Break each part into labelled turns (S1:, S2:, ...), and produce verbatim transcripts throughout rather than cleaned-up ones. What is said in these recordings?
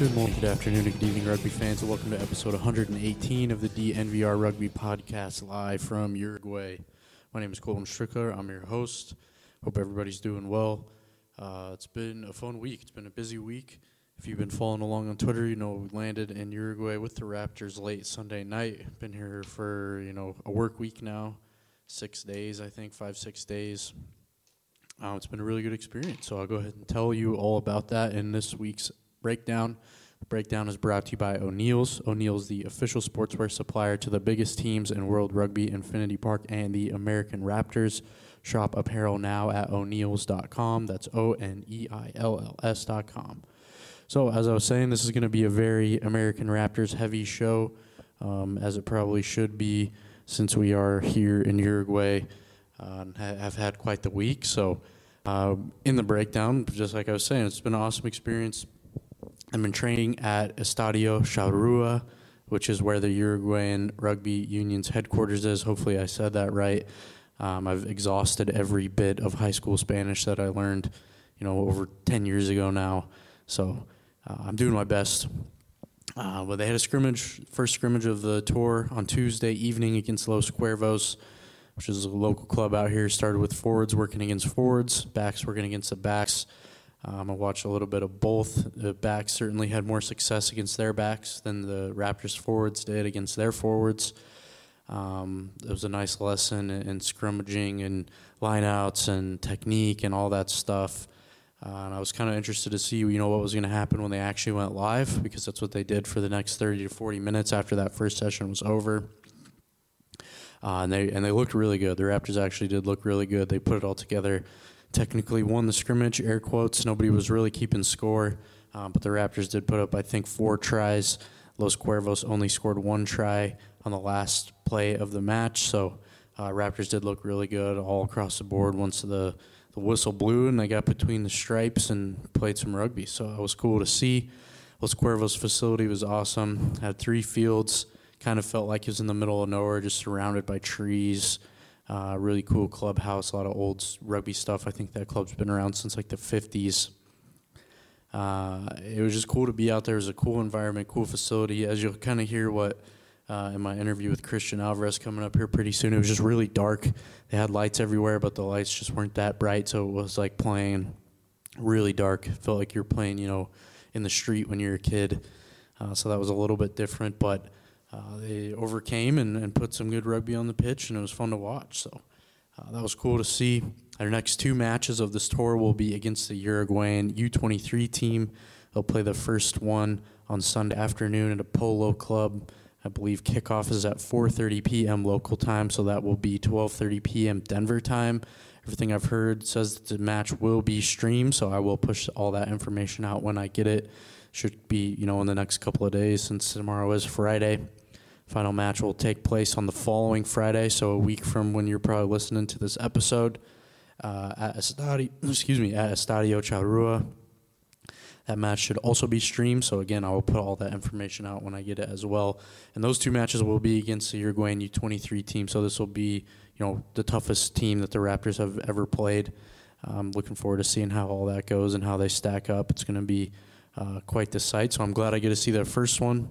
S1: Good morning, good afternoon, and good evening, rugby fans, and welcome to episode one hundred eighteen of the D N V R Rugby Podcast, live from Uruguay. My name is Colton Strickler. I'm your host. Hope everybody's doing well. Uh, it's been a fun week. It's been a busy week. If you've been following along on Twitter, you know we landed in Uruguay with the Raptors late Sunday night. Been here for, you know, a work week now, six days, I think, five, six days. Uh, it's been a really good experience, so I'll go ahead and tell you all about that in this week's breakdown. The breakdown is brought to you by O'Neill's. O'Neill's, the official sportswear supplier to the biggest teams in World Rugby, Infinity Park, and the American Raptors. Shop apparel now at o'neills dot com. That's O N E I L L S dot com. So, as I was saying, this is going to be a very American Raptors heavy show, um, as it probably should be, since we are here in Uruguay uh, and ha- have had quite the week. So, uh, in the breakdown, just like I was saying, it's been an awesome experience. I've been training at Estadio Charrúa, which is where the Uruguayan Rugby Union's headquarters is. Hopefully I said that right. Um, I've exhausted every bit of high school Spanish that I learned, you know, over ten years ago now. So uh, I'm doing my best. Uh, but they had a scrimmage, first scrimmage of the tour on Tuesday evening against Los Cuervos, which is a local club out here. Started with forwards working against forwards, backs working against the backs. Um, I watched a little bit of both. The backs certainly had more success against their backs than the Raptors forwards did against their forwards. Um, it was a nice lesson in, in scrimmaging and lineouts and technique and all that stuff. Uh, and I was kind of interested to see, you know, what was going to happen when they actually went live, because that's what they did for the next thirty to forty minutes after that first session was over. Uh, and they and they looked really good. The Raptors actually did look really good. They put it all together. Technically won the scrimmage, air quotes. Nobody was really keeping score, um, but the Raptors did put up, I think, four tries. Los Cuervos only scored one try on the last play of the match, so uh, Raptors did look really good all across the board once the, the whistle blew and they got between the stripes and played some rugby, so it was cool to see. Los Cuervos facility was awesome. Had three fields, kind of felt like it was in the middle of nowhere, just surrounded by trees. Uh, really cool clubhouse, a lot of old rugby stuff. I think that club's been around since like the fifties. Uh, it was just cool to be out there. It was a cool environment, cool facility. As you'll kind of hear what uh, in my interview with Christian Alvarez coming up here pretty soon, it was just really dark. They had lights everywhere, but the lights just weren't that bright, so it was like playing really dark. It felt like you're playing, you know, in the street when you're a kid. Uh, so that was a little bit different, but Uh, they overcame and, and put some good rugby on the pitch, and it was fun to watch. So uh, that was cool to see. Our next two matches of this tour will be against the Uruguayan U twenty-three team. They'll play the first one on Sunday afternoon at a polo club. I believe kickoff is at four thirty p.m. local time, so that will be twelve thirty p.m. Denver time. Everything I've heard says that the match will be streamed, so I will push all that information out when I get it. Should be, you know, in the next couple of days, since tomorrow is Friday. Final match will take place on the following Friday, so a week from when you're probably listening to this episode, uh, at Estadio, excuse me, at Estadio Charrúa. That match should also be streamed, so again, I will put all that information out when I get it as well. And those two matches will be against the Uruguayan U twenty-three team, so this will be, you know, the toughest team that the Raptors have ever played. I'm looking forward to seeing how all that goes and how they stack up. It's going to be uh, quite the sight, so I'm glad I get to see that first one.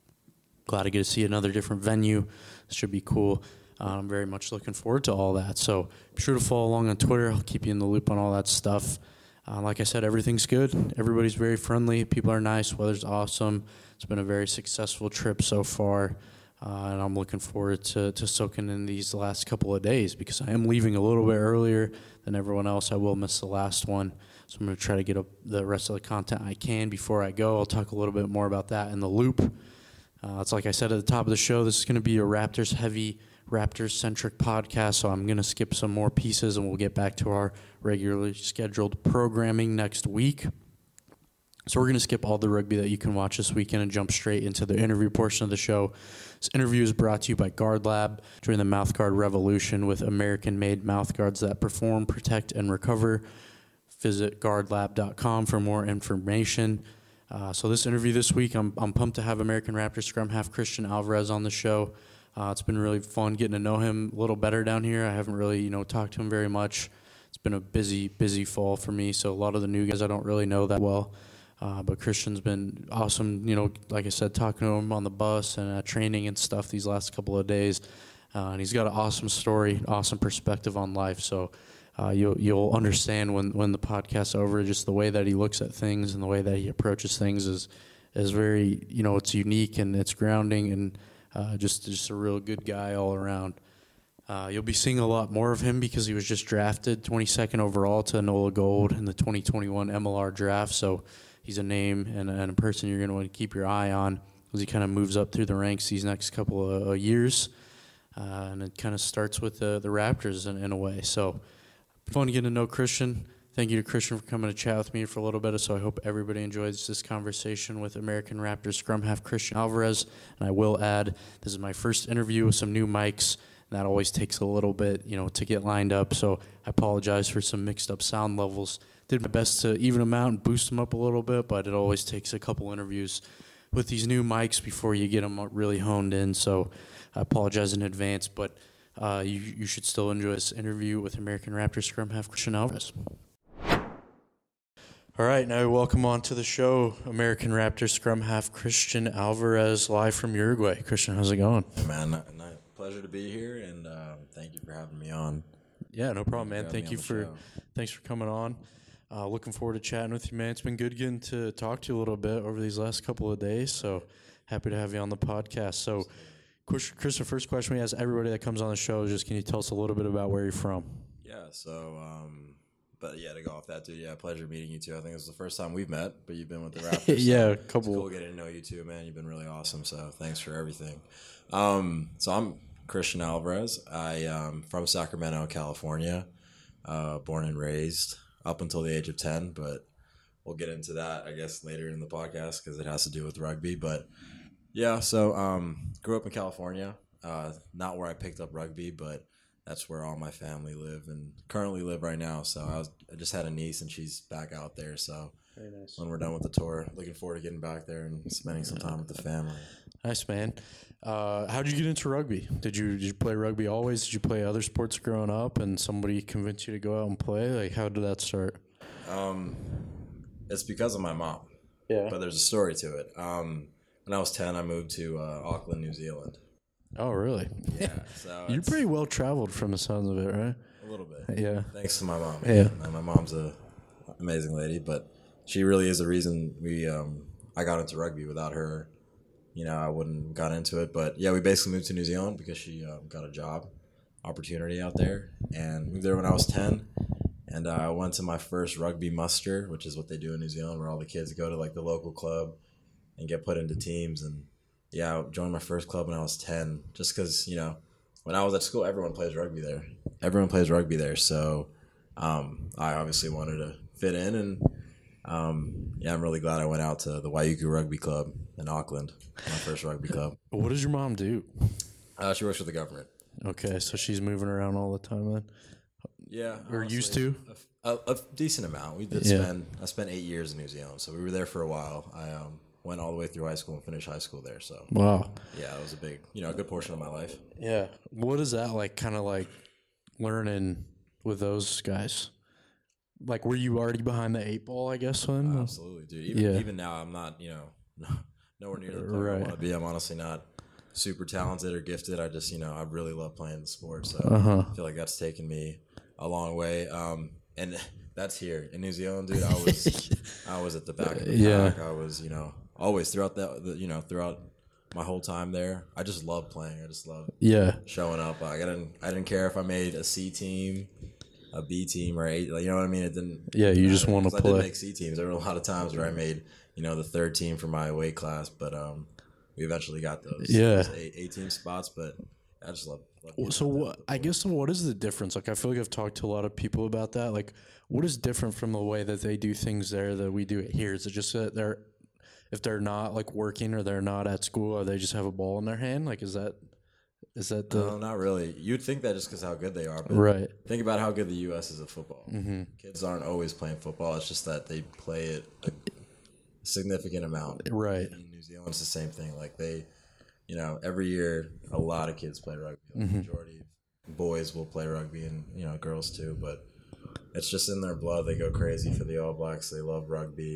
S1: Glad to get to see another different venue. This should be cool. Uh, I'm very much looking forward to all that. So be sure to follow along on Twitter. I'll keep you in the loop on all that stuff. Uh, like I said, everything's good. Everybody's very friendly. People are nice. Weather's awesome. It's been a very successful trip so far. Uh, and I'm looking forward to, to soaking in these last couple of days, because I am leaving a little bit earlier than everyone else. I will miss the last one. So I'm going to try to get up the rest of the content I can before I go. I'll talk a little bit more about that in the loop. Uh, it's like I said at the top of the show, this is going to be a Raptors-heavy, Raptors-centric podcast, so I'm going to skip some more pieces, and we'll get back to our regularly scheduled programming next week. So we're going to skip all the rugby that you can watch this weekend and jump straight into the interview portion of the show. This interview is brought to you by Guard Lab. Join the mouthguard revolution with American-made mouthguards that perform, protect, and recover. Visit guard lab dot com for more information. Uh, so this interview this week, I'm I'm pumped to have American Raptors scrum half Christian Alvarez on the show. Uh, it's been really fun getting to know him a little better down here. I haven't really, you know, talked to him very much. It's been a busy, busy fall for me, so a lot of the new guys I don't really know that well. Uh, but Christian's been awesome, you know, like I said, talking to him on the bus and uh, training and stuff these last couple of days. Uh, and he's got an awesome story, awesome perspective on life. So uh, you'll you'll understand when, when the podcast's over, just the way that he looks at things and the way that he approaches things is is very, you know, it's unique and it's grounding and uh, just just a real good guy all around. Uh, you'll be seeing a lot more of him because he was just drafted twenty-second overall to NOLA Gold in the twenty twenty-one M L R draft. So he's a name and, and a person you're going to want to keep your eye on as he kind of moves up through the ranks these next couple of uh, years. Uh, and it kind of starts with the, the Raptors in, in a way. So fun getting to know Christian. Thank you to Christian for coming to chat with me for a little bit. So I hope everybody enjoys this conversation with American Raptors scrum half Christian Alvarez. And I will add, this is my first interview with some new mics. And that always takes a little bit, you know, to get lined up. So I apologize for some mixed up sound levels. Did my best to even them out and boost them up a little bit, but it always takes a couple interviews with these new mics before you get them really honed in. So I apologize in advance, but uh, you, you should still enjoy this interview with American Raptors scrum half Christian Alvarez. All right, now welcome on to the show, American Raptors scrum half Christian Alvarez, live from Uruguay. Christian, how's it going?
S2: Hey man, not, not, pleasure to be here, and uh, thank you for having me on.
S1: Yeah, no problem, man.
S2: For
S1: Thank you for
S2: show.
S1: thanks for coming on. Uh, looking forward to chatting with you, man. It's been good getting to talk to you a little bit over these last couple of days, so happy to have you on the podcast. So, Chris, the first question we ask everybody that comes on the show is just, can you tell us a little bit about where you're from?
S2: Yeah, so, um, but yeah, to go off that, dude, yeah, pleasure meeting you too. I think this is the first time we've met, but you've been with the Raptors.
S1: yeah,
S2: so
S1: a couple.
S2: It's cool getting to know you too, man. You've been really awesome, so thanks for everything. Um, so I'm Christian Alvarez. I um from Sacramento, California, uh, born and raised up until the age of ten, but we'll get into that, I guess, later in the podcast because it has to do with rugby. But yeah, so um, grew up in California, uh, not where I picked up rugby, but that's where all my family live and currently live right now. So I, was, I just had a niece and she's back out there. So
S1: Very nice.
S2: When we're done with the tour, looking forward to getting back there and spending some time with the family.
S1: Nice, man. Uh, how did you get into rugby? Did you did you play rugby always? Did you play other sports growing up and somebody convinced you to go out and play? Like, how did that start?
S2: Um, it's because of my mom.
S1: Yeah.
S2: But there's a story to it. Um, when I was ten, I moved to uh, Auckland, New Zealand.
S1: Oh, really?
S2: Yeah. So
S1: You're pretty well traveled from the sounds of it, right?
S2: A little bit.
S1: Yeah.
S2: Thanks to my mom.
S1: Yeah.
S2: And my mom's a amazing lady, but she really is the reason we um, I got into rugby. Without her, you know, I wouldn't have got into it. But yeah, we basically moved to New Zealand because she um, got a job opportunity out there, and moved there when I was ten. And uh, I went to my first rugby muster, which is what they do in New Zealand, where all the kids go to like the local club and get put into teams. And yeah, I joined my first club when I was ten, just because, you know, when I was at school, everyone plays rugby there. Everyone plays rugby there. So um, I obviously wanted to fit in. And um, yeah, I'm really glad I went out to the Waiuku Rugby Club in Auckland, my first rugby club.
S1: What does your mom do?
S2: Uh, she works for the government.
S1: Okay, so she's moving around all the time then?
S2: Yeah.
S1: Or
S2: honestly,
S1: used to?
S2: A, a, a decent amount. We did
S1: Yeah.
S2: spend, I spent eight years in New Zealand, so we were there for a while. I um, went all the way through high school and finished high school there. So
S1: Wow.
S2: yeah, it was a big, you know, a good portion of my life.
S1: Yeah. What is that like, kind of like learning with those guys? Like, were you already behind the eight ball, I guess, then?
S2: Uh, absolutely, dude. Even,
S1: Yeah.
S2: even now, I'm not, you know, nowhere near the player
S1: Right.
S2: I want to be. I'm honestly not super talented or gifted. I just, you know, I really love playing the sport. So
S1: Uh-huh.
S2: I feel like that's taken me a long way. Um, and that's here in New Zealand, dude. I was, I was at the back of the
S1: Yeah.
S2: pack. I was, you know, always throughout that, the, you know, throughout my whole time there. I just love playing. I just love
S1: Yeah.
S2: showing up. Like, I didn't, I didn't care if I made a C team, a B team, or eight. Like, you know what I mean? It didn't.
S1: Yeah, you just
S2: matter,
S1: wanna
S2: 'cause I
S1: play.
S2: did make C teams. There were a lot of times where I made, you know, the third team for my weight class, but um, we eventually got those,
S1: Yeah.
S2: those eight, eight team spots. But I just love. love getting
S1: So
S2: out there
S1: what,
S2: with the
S1: I
S2: boys.
S1: guess what is the difference? Like, I feel like I've talked to a lot of people about that. Like, what is different from the way that they do things there that we do it here? Is it just that they're, if they're not like working or they're not at school or they just have a ball in their hand? Like, is that, is that the,
S2: No, not really. You'd think that just because how good they are, but
S1: right.
S2: think about how good the U S is at football.
S1: Mm-hmm.
S2: Kids aren't always playing football. It's just that they play it a significant amount.
S1: Right.
S2: In New Zealand, it's the same thing. Like they, you know, every year a lot of kids play rugby. Like
S1: Mm-hmm.
S2: The majority of boys will play rugby, and you know, girls too. But it's just in their blood. They go crazy for the All Blacks. They love rugby.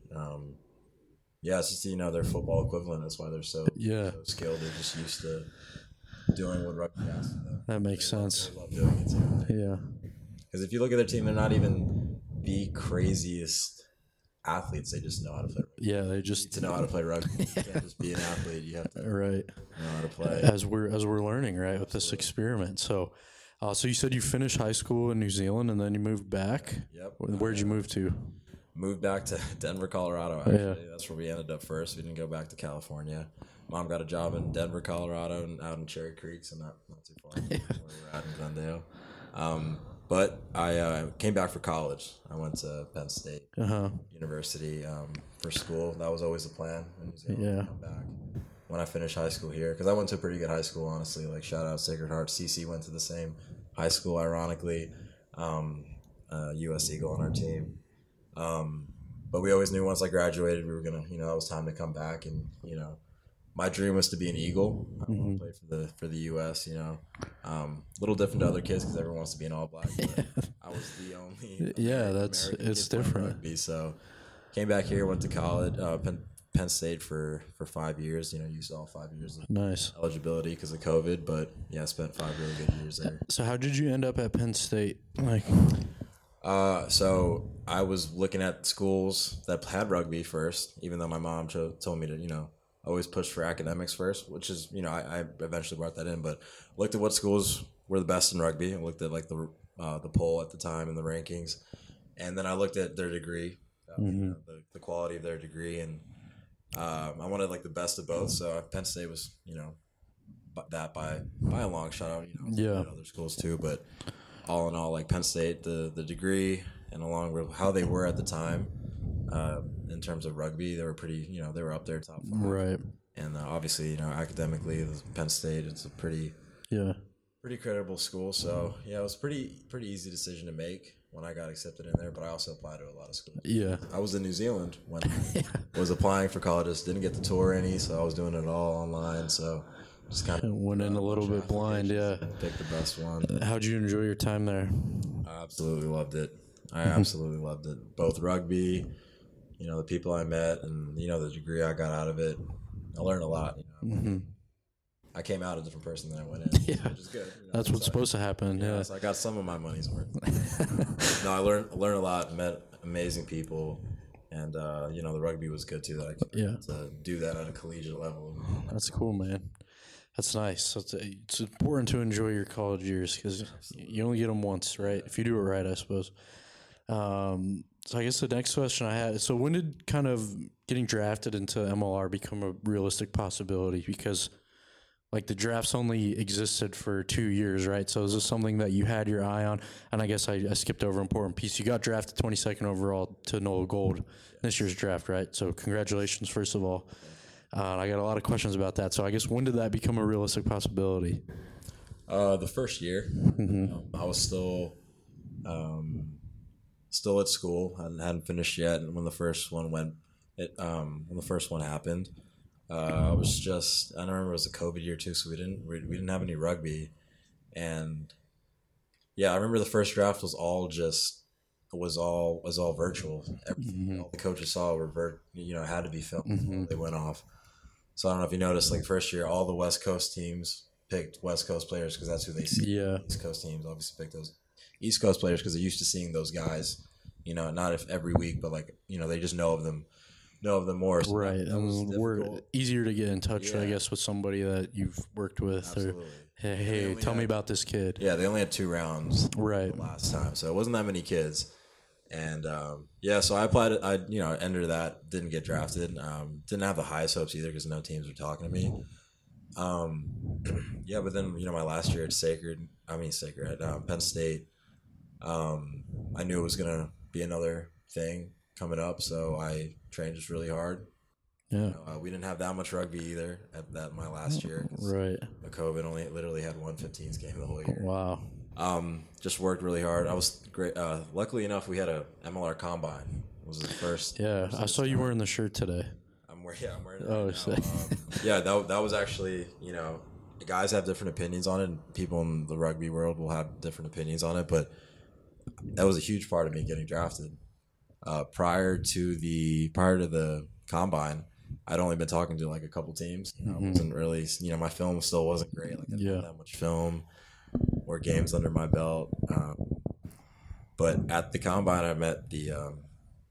S2: Um, yeah, it's just, you know, their football equivalent. That's why they're so,
S1: Yeah.
S2: so skilled. They're just used to doing what rugby asks of them.
S1: That makes
S2: They love-
S1: sense.
S2: they love doing it too.
S1: Yeah.
S2: Because if you look at their team, they're not even the craziest athletes. They just know how to play rugby.
S1: Yeah, they
S2: You
S1: just
S2: need to know how to play rugby. You can't just be an athlete. You have to
S1: right.
S2: know how to play.
S1: As we're as we're learning, right, with this experiment. So, uh, so you said you finished high school in New Zealand and then you moved back.
S2: Yep.
S1: Where'd you move to?
S2: Moved back to Denver, Colorado, actually. Yeah. That's where we ended up first. We didn't go back to California. Mom got a job in Denver, Colorado, and out in Cherry Creek, so not, not too far from where we're at in Glendale. Um, but I uh, came back for college. I went to Penn State
S1: uh-huh.
S2: University um, for school. That was always the plan in New Zealand,
S1: yeah.
S2: to come back when I finished high school here. Because I went to a pretty good high school, honestly. Like, shout out Sacred Heart. C C went to the same high school, ironically. Um, uh, U S Eagle on our team. Um, but we always knew once I graduated, we were going to, you know, it was time to come back. And, you know, my dream was to be an Eagle. I mm-hmm. want to play for the for the U S, you know. Um, a little different to other kids because everyone wants to be an All Black. But I was the only
S1: yeah, that's
S2: American
S1: it's different.
S2: Rugby, so came back here, went to college, uh, Penn, Penn State for, for five years. You know, used all five years of
S1: nice
S2: eligibility because of COVID. But yeah, I spent five really good years there.
S1: So how did you end up at Penn State? Like,
S2: uh, so I was looking at schools that had rugby first, even though my mom cho- told me to, you know, always push for academics first, which is, you know, I, I eventually brought that in, but looked at what schools were the best in rugby and looked at like the uh, the poll at the time and the rankings. And then I looked at their degree, uh, mm-hmm. you know, the, the quality of their degree. And um, I wanted like the best of both. So Penn State was, you know, that by, by a long shot. You know,
S1: yeah.
S2: other schools too, but all in all, like Penn State, the, the degree and along with how they were at the time, Uh, in terms of rugby, they were pretty, you know, they were up there top five.
S1: Right.
S2: And uh, obviously, you know, academically, Penn State, it's a pretty,
S1: yeah,
S2: pretty credible school. So yeah, it was pretty, pretty easy decision to make when I got accepted in there. But I also applied to a lot of schools.
S1: Yeah.
S2: I was in New Zealand when I was applying for colleges. Didn't get to tour any, so I was doing it all online. So just kind of
S1: went in a little bit blind. Yeah.
S2: Picked the best one.
S1: How'd you enjoy your time there?
S2: I absolutely loved it. I absolutely loved it. Both rugby, you know, the people I met and, you know, the degree I got out of it. I learned a lot, you know.
S1: Mm-hmm.
S2: I came out a different person than I went in,
S1: yeah.
S2: which is good. You know,
S1: that's what's
S2: so,
S1: supposed to happen, yeah.
S2: yeah. So I got some of my money's worth. no, I learned learned a lot, met amazing people, and, uh, you know, the rugby was good, too, that I could
S1: yeah.
S2: to do that at a collegiate level.
S1: That's cool, man. That's nice. So it's, it's important to enjoy your college years because you only get them once, right? If you do it right, I suppose. Um, so I guess the next question I had, so when did kind of getting drafted into M L R become a realistic possibility? Because like the drafts only existed for two years, right? So is this something that you had your eye on? And I guess I, I skipped over an important piece. You got drafted twenty-second overall to Nola Gold this year's draft, right? So congratulations, first of all. Uh, I got a lot of questions about that. So I guess when did that become a realistic possibility?
S2: Uh, the first year,
S1: mm-hmm.
S2: um, I was still... Um, Still at school, I hadn't finished yet. And when the first one went, it um when the first one happened, uh, I was just I don't remember it was a COVID year too, so we didn't we, we didn't have any rugby, and yeah, I remember the first draft was all just was all was all virtual. Everything mm-hmm. all the coaches saw were vir- you know had to be filmed
S1: mm-hmm.
S2: before they went off. So I don't know if you noticed, like first year, all the West Coast teams picked West Coast players because that's who they see.
S1: Yeah,
S2: East Coast teams obviously picked those East Coast players because they're used to seeing those guys, you know, not if every week, but like, you know, they just know of them, know of them more. So
S1: right.
S2: That, that
S1: and we're easier to get in touch, yeah. I guess, with somebody that you've worked with.
S2: Absolutely.
S1: Or, hey, hey tell
S2: had,
S1: me about this kid.
S2: Yeah, they only had two rounds
S1: right.
S2: last time. So it wasn't that many kids. And, um, yeah, so I applied, I, you know, entered that, didn't get drafted. Um, didn't have the highest hopes either because no teams were talking to me. Um, yeah, but then, you know, my last year at Sacred, I mean, Sacred, at um, Penn State, Um, I knew it was going to be another thing coming up, so I trained just really hard.
S1: Yeah.
S2: You know, uh, we didn't have that much rugby either at that my last year.
S1: Right.
S2: The COVID only literally had one fifteens game the whole year.
S1: Wow.
S2: Um, just worked really hard. I was great. Uh, luckily enough, we had a M L R combine. It was the first.
S1: Yeah,
S2: first
S1: I saw you wearing the shirt today.
S2: I'm wearing. Yeah, I'm wearing. It
S1: oh,
S2: right now. um, yeah. That that was actually, you know, guys have different opinions on it. And people in the rugby world will have different opinions on it, but that was a huge part of me getting drafted. uh, prior to the prior to the combine, I'd only been talking to like a couple teams. You know,
S1: Mm-hmm.
S2: I wasn't really, you know, my film still wasn't great. Like I didn't
S1: Yeah.
S2: have that much film or games under my belt. Um, but at the combine, I met the um,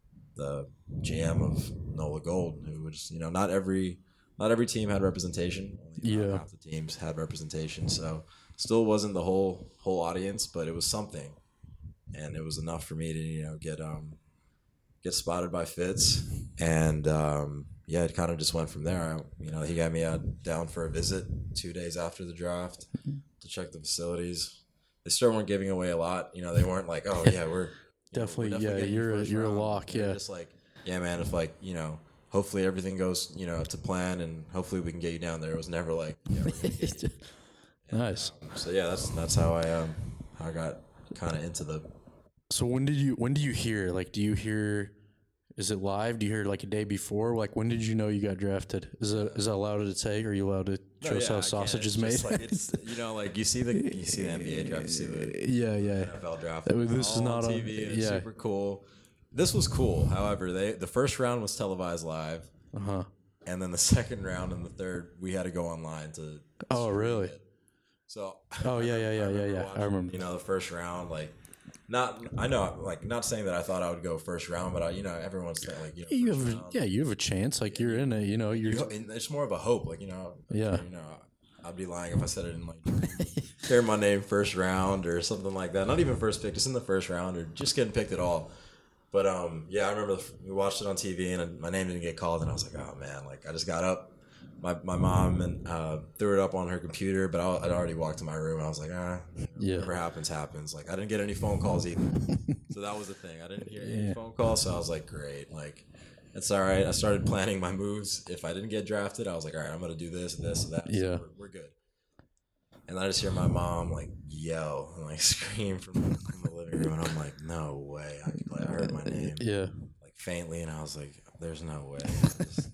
S2: the G M of NOLA Gold, who was, you know, not every not every team had representation. Only about
S1: Yeah.
S2: half the teams had representation, so still wasn't the whole whole audience, but it was something, and it was enough for me to, you know, get um get spotted by Fitz, and um, yeah, it kind of just went from there. I, you know, he got me out down for a visit two days after the draft to check the facilities. They still weren't giving away a lot. You know, they weren't like, oh yeah, we're you know,
S1: Definitely,
S2: we're
S1: yeah,
S2: getting
S1: you're a-
S2: first
S1: you're a
S2: round.
S1: lock,
S2: They're
S1: yeah.
S2: just like, yeah, man, if like, you know, hopefully everything goes, you know, to plan, and hopefully we can get you down there. It was never like, yeah, we're gonna get you. And,
S1: Nice.
S2: um, so yeah, that's that's how I um how I got kind of into the.
S1: So when did you when do you hear? Like, do you hear? Is it live? Do you hear like a day before? Like, when did you know you got drafted? Is that is that allowed to say? Or are you allowed to show
S2: No,
S1: us
S2: yeah,
S1: how
S2: I
S1: sausage
S2: can.
S1: is
S2: It's
S1: made?
S2: just like, it's, you know, like you see the you see the N B A draft, you see the
S1: yeah, yeah.
S2: N F L draft.
S1: I mean,
S2: It's
S1: this is
S2: all
S1: not
S2: on
S1: on-
S2: T V. And it's
S1: yeah.
S2: super cool. This was cool. However, they the first round was televised live,
S1: Uh huh.
S2: and then the second round and the third we had to go online to.
S1: Oh,
S2: stream
S1: really?
S2: it. So.
S1: Oh, yeah, yeah, yeah,
S2: I
S1: yeah,
S2: remember
S1: yeah. I
S2: watching,
S1: remember.
S2: You know, the first round, like. Not, I know, like, not saying that I thought I would go first round, but I, you know, everyone's saying, like, you know,
S1: You
S2: first
S1: have a,
S2: round.
S1: yeah, you have a chance. Like you're in it. You know, you're.
S2: You ho- and it's more of a hope, like, you know,
S1: Yeah.
S2: you know, I'd be lying if I said I didn't like share my name first round or something like that. Not even first pick, just in the first round or just getting picked at all. But um, yeah, I remember the, we watched it on T V and my name didn't get called, and I was like, oh man, like I just got up. My my mom and uh, threw it up on her computer, but I, I'd already walked to my room. I was like, ah,
S1: Yeah.
S2: whatever happens, happens. Like I didn't get any phone calls either, so that was the thing. I didn't hear any
S1: Yeah.
S2: phone calls, so I was like, great, like it's all right. I started planning my moves. If I didn't get drafted, I was like, all right, I'm gonna do this, this, and that. So
S1: Yeah.
S2: we're, we're good. And I just hear my mom like yell and like scream from, from the living room, and I'm like, no way. I, like, I heard my name
S1: Yeah.
S2: like faintly, and I was like, there's no way. I just,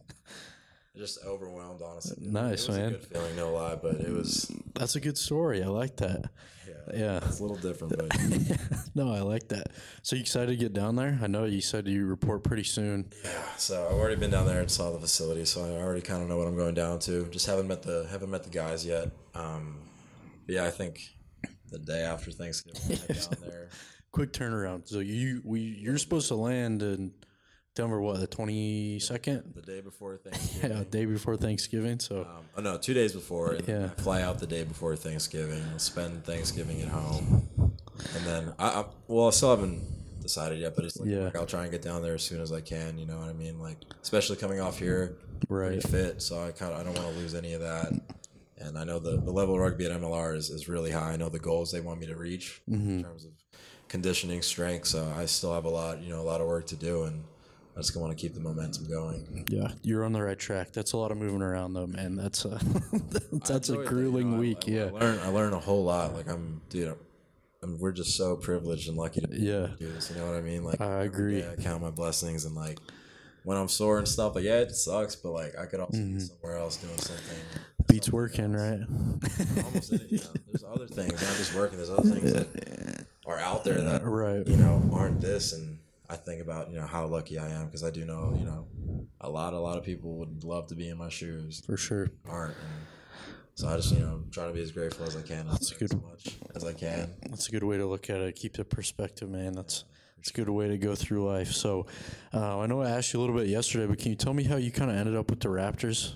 S2: just overwhelmed, honestly.
S1: Nice,
S2: it was
S1: man.
S2: a good feeling, no lie, but it was
S1: That's a good story. I like that.
S2: yeah,
S1: Yeah.
S2: it's a little different, but
S1: No, I like that. So you excited to get down there? I know you said you report pretty soon.
S2: yeah. So I've already been down there and saw the facility, so I already kind of know what I'm going down to. Just haven't met the haven't met the guys yet. Um, but yeah, I think the day after Thanksgiving, I head down there.
S1: Quick turnaround. So you we you're supposed to land in Denver. What, the twenty second?
S2: The day before Thanksgiving.
S1: Yeah, day before Thanksgiving. So
S2: Um, oh no, two days before. And
S1: Yeah.
S2: I fly out the day before Thanksgiving. I'll spend Thanksgiving at home, and then I, I well, I still haven't decided yet, but it's like,
S1: Yeah.
S2: like I'll try and get down there as soon as I can. You know what I mean? Like especially coming off here,
S1: Right.
S2: pretty fit, so I kind of I don't want to lose any of that. And I know the, the level of rugby at M L R is, is really high. I know the goals they want me to reach
S1: Mm-hmm.
S2: in terms of conditioning, strength. So I still have a lot, you know, a lot of work to do, and I just want to keep the momentum going.
S1: yeah, you're on the right track. That's a lot of moving around though, man. That's a that's a
S2: I enjoyed that,
S1: grueling
S2: you know, I-
S1: week.
S2: I,
S1: yeah.
S2: I learn I learn a whole lot. Like I'm, dude, I'm, I'm- we're just so privileged and lucky to
S1: Yeah.
S2: do this. You know what I mean? Like
S1: I
S2: every
S1: agree.
S2: day I count my blessings, and like when I'm sore and stuff, like yeah, it sucks, but like I could also
S1: Mm-hmm.
S2: be somewhere else doing something.
S1: Beats
S2: something
S1: working,
S2: else.
S1: right?
S2: Almost, in it, you know, there's other things, not just working. There's other things that are out there that
S1: Right.
S2: you know aren't this, and I think about you know how lucky I am because I do know you know a lot a lot of people would love to be in my shoes,
S1: For sure.
S2: aren't. And so I just you know try to be as grateful as I can,
S1: That's
S2: as,
S1: good.
S2: as much as I can.
S1: That's a good way to look at it. Keep the perspective, man. That's it's a good way to go through life. So, uh, I know I asked you a little bit yesterday, but can you tell me how you kind of ended up with the Raptors?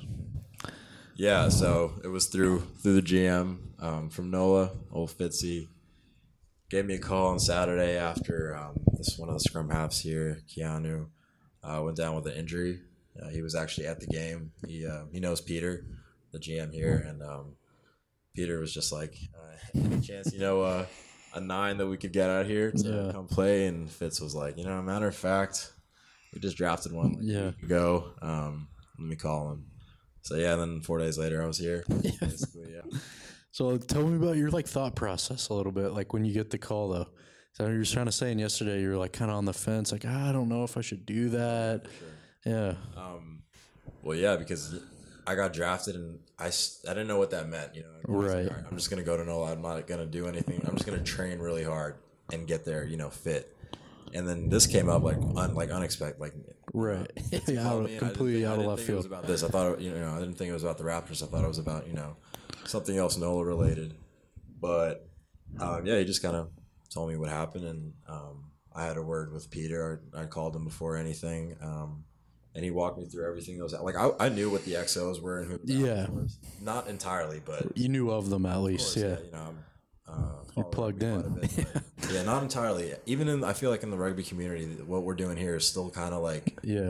S2: Yeah, so it was through through the G M um, from NOLA, old Fitzy. Gave me a call on Saturday after um, this one of the scrum halves here, Keanu, uh, went down with an injury. Uh, he was actually at the game. He uh, he knows Peter, the G M here, and um, Peter was just like, uh, any chance you know uh, a nine that we could get out here to
S1: Yeah.
S2: come play? And Fitz was like, you know, matter of fact, we just drafted one like
S1: Yeah.
S2: a week ago. Um, let me call him. So yeah, then four days later I was here. Basically, yeah.
S1: So tell me about your like thought process a little bit, like when you get the call though. So you were trying to saying yesterday, you were like kind of on the fence, like ah, I don't know if I should do that. Yeah,
S2: Um, well, yeah, because I got drafted and I, s- I didn't know what that meant. You know, I was like,
S1: Right.
S2: "All right, I'm just gonna go to NOLA. I'm not gonna do anything. I'm just gonna train really hard and get there. You know, fit. And then this came up like un, like unexpected, like
S1: Right.
S2: Fitzy
S1: Yeah,
S2: called
S1: out-
S2: me, and
S1: completely
S2: I
S1: out of
S2: didn't think, I didn't
S1: left
S2: think it was
S1: field.
S2: about this. I thought it, you know I didn't think it was about the Raptors. I thought it was about you know something else NOLA related. But um, yeah, he just kind of told me what happened, and um, I had a word with Peter. I, I called him before anything, um, and he walked me through everything that was like I, I knew what the X Os were and who the
S1: Yeah.
S2: Raptors was. Not entirely, but
S1: You knew of them at
S2: of
S1: least,
S2: course,
S1: yeah.
S2: you know. I'm, uh, follow
S1: plugged
S2: rugby
S1: in.
S2: quite a bit, but yeah, not entirely. Even in, I feel like in the rugby community, what we're doing here is still kind of like
S1: Yeah.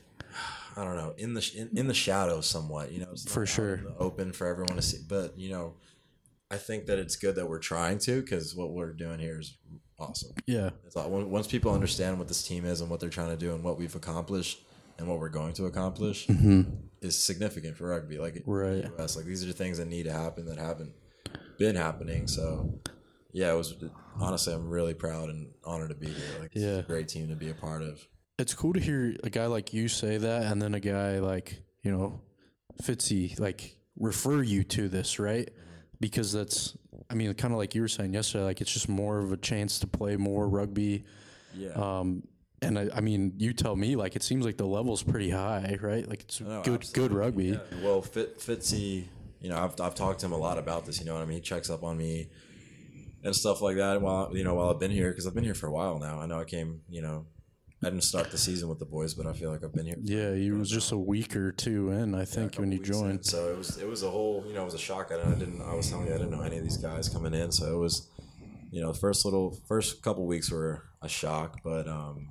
S2: I don't know, in the sh- in, in the shadows somewhat. You know, it's not
S1: For
S2: out
S1: sure.
S2: in the open for everyone to see. But you know, I think that it's good that we're trying to, because what we're doing here is awesome.
S1: Yeah.
S2: It's all, once people understand what this team is and what they're trying to do and what we've accomplished and what we're going to accomplish is significant for rugby. Like
S1: Mm-hmm. Right.
S2: in the U S, like these are the things that need to happen that haven't been happening. So yeah, it was honestly, I'm really proud and honored to be here. Like it's
S1: Yeah.
S2: a great team to be a part of.
S1: It's cool to hear a guy like you say that, and then a guy like, you know, Fitzy, like, refer you to this, right? Because that's, I mean, kind of like you were saying yesterday, like, it's just more of a chance to play more rugby.
S2: Yeah.
S1: Um, and I, I mean, you tell me, like, it seems like the level's pretty high, right? Like, it's
S2: No,
S1: good, good
S2: absolutely.
S1: rugby.
S2: Yeah. Well, Fit, Fitzy, you know, I've, I've talked to him a lot about this. You know what I mean? He checks up on me and stuff like that. While you know, while I've been here, because I've been here for a while now. I know I came, you know, I didn't start the season with the boys, but I feel like I've been here.
S1: Yeah, he was just a week or two in, I
S2: Yeah, a
S1: think,
S2: couple
S1: when you
S2: weeks in.
S1: joined.
S2: So it was it was a whole, you know, it was a shock. I didn't. I was telling you, I didn't know any of these guys coming in. So it was, you know, the first little first couple weeks were a shock, but um,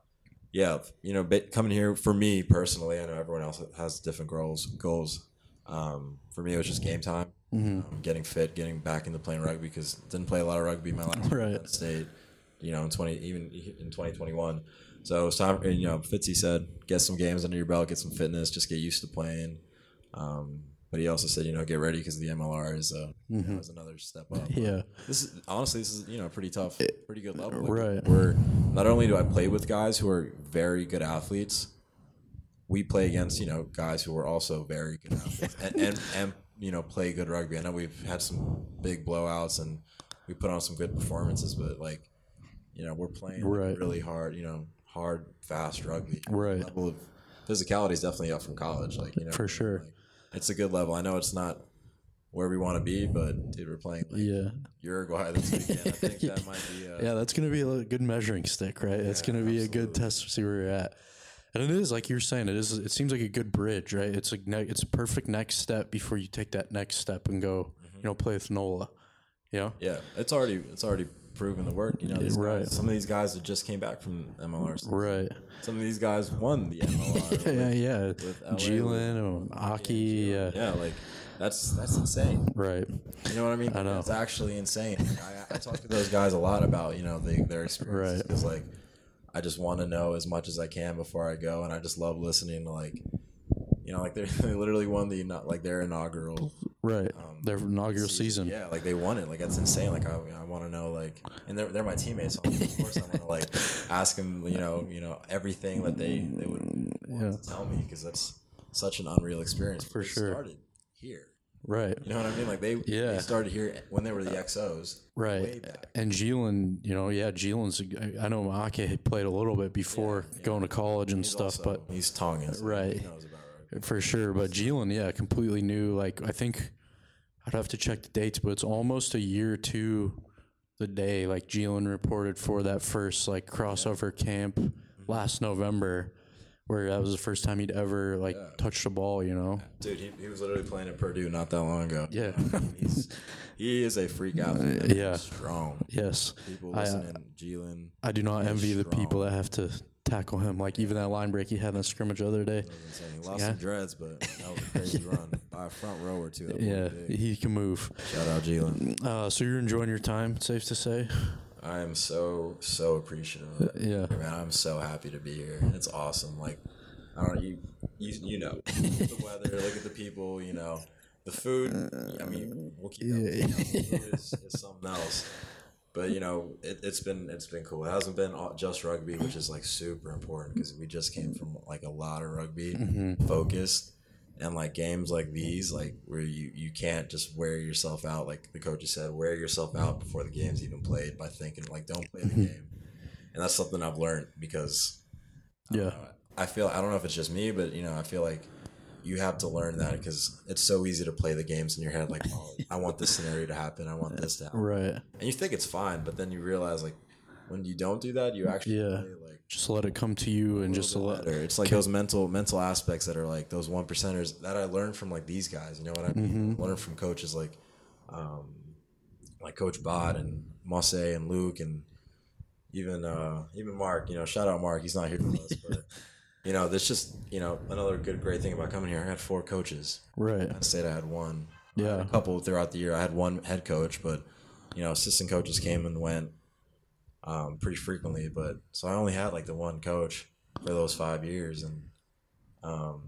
S2: yeah, you know, ba- coming here for me personally, I know everyone else has different goals. Goals. Um, for me, it was just game time,
S1: Mm-hmm.
S2: um, getting fit, getting back into playing rugby because didn't play a lot of rugby my last year
S1: Right.
S2: at Penn State. You know, in twenty even in twenty twenty-one. So it was time. And, you know, Fitzy said, get some games under your belt, get some fitness, just get used to playing. Um, but he also said, you know, get ready because the M L R is, uh, you know, is another step up.
S1: Mm-hmm. Yeah.
S2: This is honestly, this is you know pretty tough, pretty good level. Like,
S1: Right.
S2: We're not only do I play with guys who are very good athletes, we play against you know guys who are also very good athletes and, and and you know play good rugby. I know we've had some big blowouts and we put on some good performances, but like you know we're playing like,
S1: Right.
S2: really hard, you know, hard, fast rugby.
S1: Right.
S2: The level of physicality is definitely up from college. Like you know,
S1: For sure.
S2: like, it's a good level. I know it's not where we want to be, but dude, we're playing like
S1: Yeah.
S2: Uruguay this weekend. I think that might be. Uh,
S1: Yeah, that's going to be a good measuring stick, right? It's
S2: Yeah,
S1: going to be a good
S2: absolutely.
S1: test to see where you're at. And it is, like you're saying, it is. It seems like a good bridge, right? It's a ne- it's a perfect next step before you take that next step and go, you know, play with NOLA. You know?
S2: Yeah, it's already it's already proven the work. You know, these
S1: Right.
S2: guys, some of these guys that just came back from M L R.
S1: Right.
S2: Some of these guys won the M L R.
S1: Yeah,
S2: with-
S1: yeah.
S2: with L A,
S1: Jalen,
S2: with-
S1: um, Aki, yeah.
S2: Yeah, like that's that's insane.
S1: Right.
S2: You know what I mean?
S1: I know.
S2: It's actually insane. I, I talk to those guys a lot about you know the, their experiences
S1: Right.
S2: because like I just want to know as much as I can before I go, and I just love listening to like you know like they they literally won the not like their inaugural
S1: Right.
S2: Um,
S1: Their inaugural season.
S2: Yeah, like they won it. Like that's insane. Like I, I want to know. Like, and they're, they're my teammates. So of course, I want to like ask them. You know, you know everything that they they would want
S1: Yeah.
S2: to tell me because that's such an unreal experience.
S1: For
S2: They
S1: sure.
S2: Started here.
S1: Right.
S2: You know what I mean? Like they,
S1: Yeah.
S2: they started here when they were the X Os. Way
S1: Right.
S2: back.
S1: And Jalen, you know, yeah, Jalen's, I know Ake had played a little bit before
S2: Yeah, yeah.
S1: going to college and
S2: He's
S1: stuff,
S2: also-
S1: but
S2: he's Tongan. So
S1: Right.
S2: He knows about rugby.
S1: for sure. But Jalen, yeah, completely new. Like, I think I'd have to check the dates, but it's almost a year to the day. Like, Jalen reported for that first, like, crossover camp last November, where that was the first time he'd ever, like,
S2: Yeah.
S1: touched a ball, you know?
S2: Dude, he, he was literally playing at Purdue not that long ago.
S1: Yeah.
S2: I mean, he's, he is a freak athlete. man.
S1: Yeah.
S2: He's strong.
S1: Yes.
S2: People
S1: I, uh,
S2: listening, Jalen.
S1: I do not
S2: He's
S1: envy the
S2: strong.
S1: people that have to tackle him. Like, even that line break he had in the scrimmage the other day.
S2: That was insane. He lost
S1: Yeah.
S2: some dreads, but that was a crazy run by a front row or two. That was
S1: Yeah,
S2: big.
S1: he can move.
S2: Shout out Jalen.
S1: Uh, so you're enjoying your time, safe to say?
S2: I am so so appreciative of it.
S1: Yeah.
S2: Man, I'm so happy to be here. It's awesome. Like I don't know, you you you know the weather. Look at the people. You know the food. I mean, we'll keep up. You know, the food is, is something else. But you know, it, it's been it's been cool. It hasn't been all, just rugby, which is like super important because we just came from like a lot of rugby
S1: Mm-hmm.
S2: focused, and like games like these, like where you you can't just wear yourself out. Like the coaches said, wear yourself out before the game's even played by thinking like don't play the
S1: Mm-hmm.
S2: game. and that's something I've learned because I
S1: Yeah.
S2: don't know, I feel I don't know if it's just me, but you know, I feel like you have to learn that because it's so easy to play the games in your head. Like, oh, I want this scenario to happen. I want this to happen.
S1: Right.
S2: And you think it's fine, but then you realize like when you don't do that, you actually
S1: Yeah.
S2: play like
S1: Just let it come to you and just
S2: little
S1: let.
S2: bit better. It's like those mental mental aspects that are like those one percenters that I learned from like these guys. You know what I mean?
S1: Mm-hmm.
S2: I learned from coaches like, um, like Coach Bod and Mosse and Luke and even uh, even Mark. You know, shout out Mark. He's not here with us, but you know, that's just you know another good great thing about coming here. I had four coaches.
S1: Right.
S2: Penn State I had one. I
S1: Yeah.
S2: had a couple throughout the year. I had one head coach, but you know, assistant coaches came and went um, pretty frequently. But so I only had like the one coach for those five years, and um,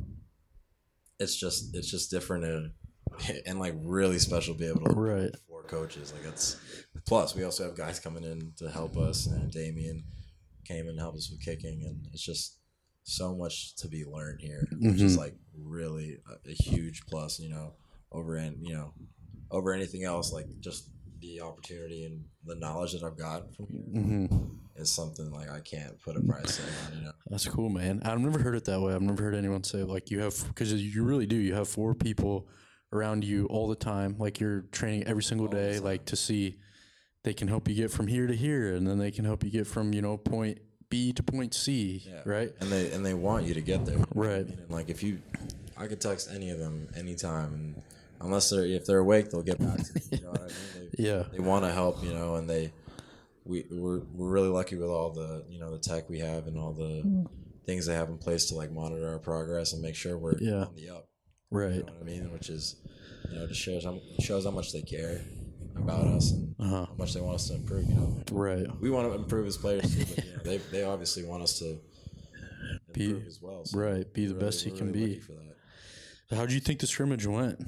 S2: it's just it's just different and and like really special to be able to
S1: Right.
S2: have four coaches. Like it's plus we also have guys coming in to help us, and Damien came and helped us with kicking, and it's just so much to be learned here, which is
S1: Mhm.
S2: like really a, a huge plus. You know, over and you know over anything else, like just the opportunity and the knowledge that I've got from here
S1: Mm-hmm.
S2: is something like I can't put a price tag on. You know.
S1: That's cool, man. I've never heard it that way. I've never heard anyone say like you have because you really do. You have four people around you all the time. Like you're training every single
S2: All the
S1: day,
S2: time.
S1: like to see they can help you get from here to here, and then they can help you get from you know point B to point C,
S2: Yeah.
S1: right?
S2: And they and they want you to get there. You know what I
S1: Right.
S2: mean? And like if you, I could text any of them anytime, and unless they're if they're awake, they'll get back to me. You know what I mean? They,
S1: Yeah.
S2: they want to help, you know, and they we we're we're really lucky with all the you know the tech we have and all the things they have in place to like monitor our progress and make sure we're
S1: Yeah.
S2: on the up.
S1: Right.
S2: You know what I mean? Which is you know just shows how shows how much they care about us and
S1: Uh-huh.
S2: how much they want us to improve. You know,
S1: Right.
S2: we want to improve as players too, but you know, they they obviously want us to
S1: Be-
S2: improve as well. So
S1: right, be the
S2: we're
S1: best you
S2: we're
S1: can
S2: really
S1: be.
S2: lucky for that.
S1: How do you think the scrimmage went?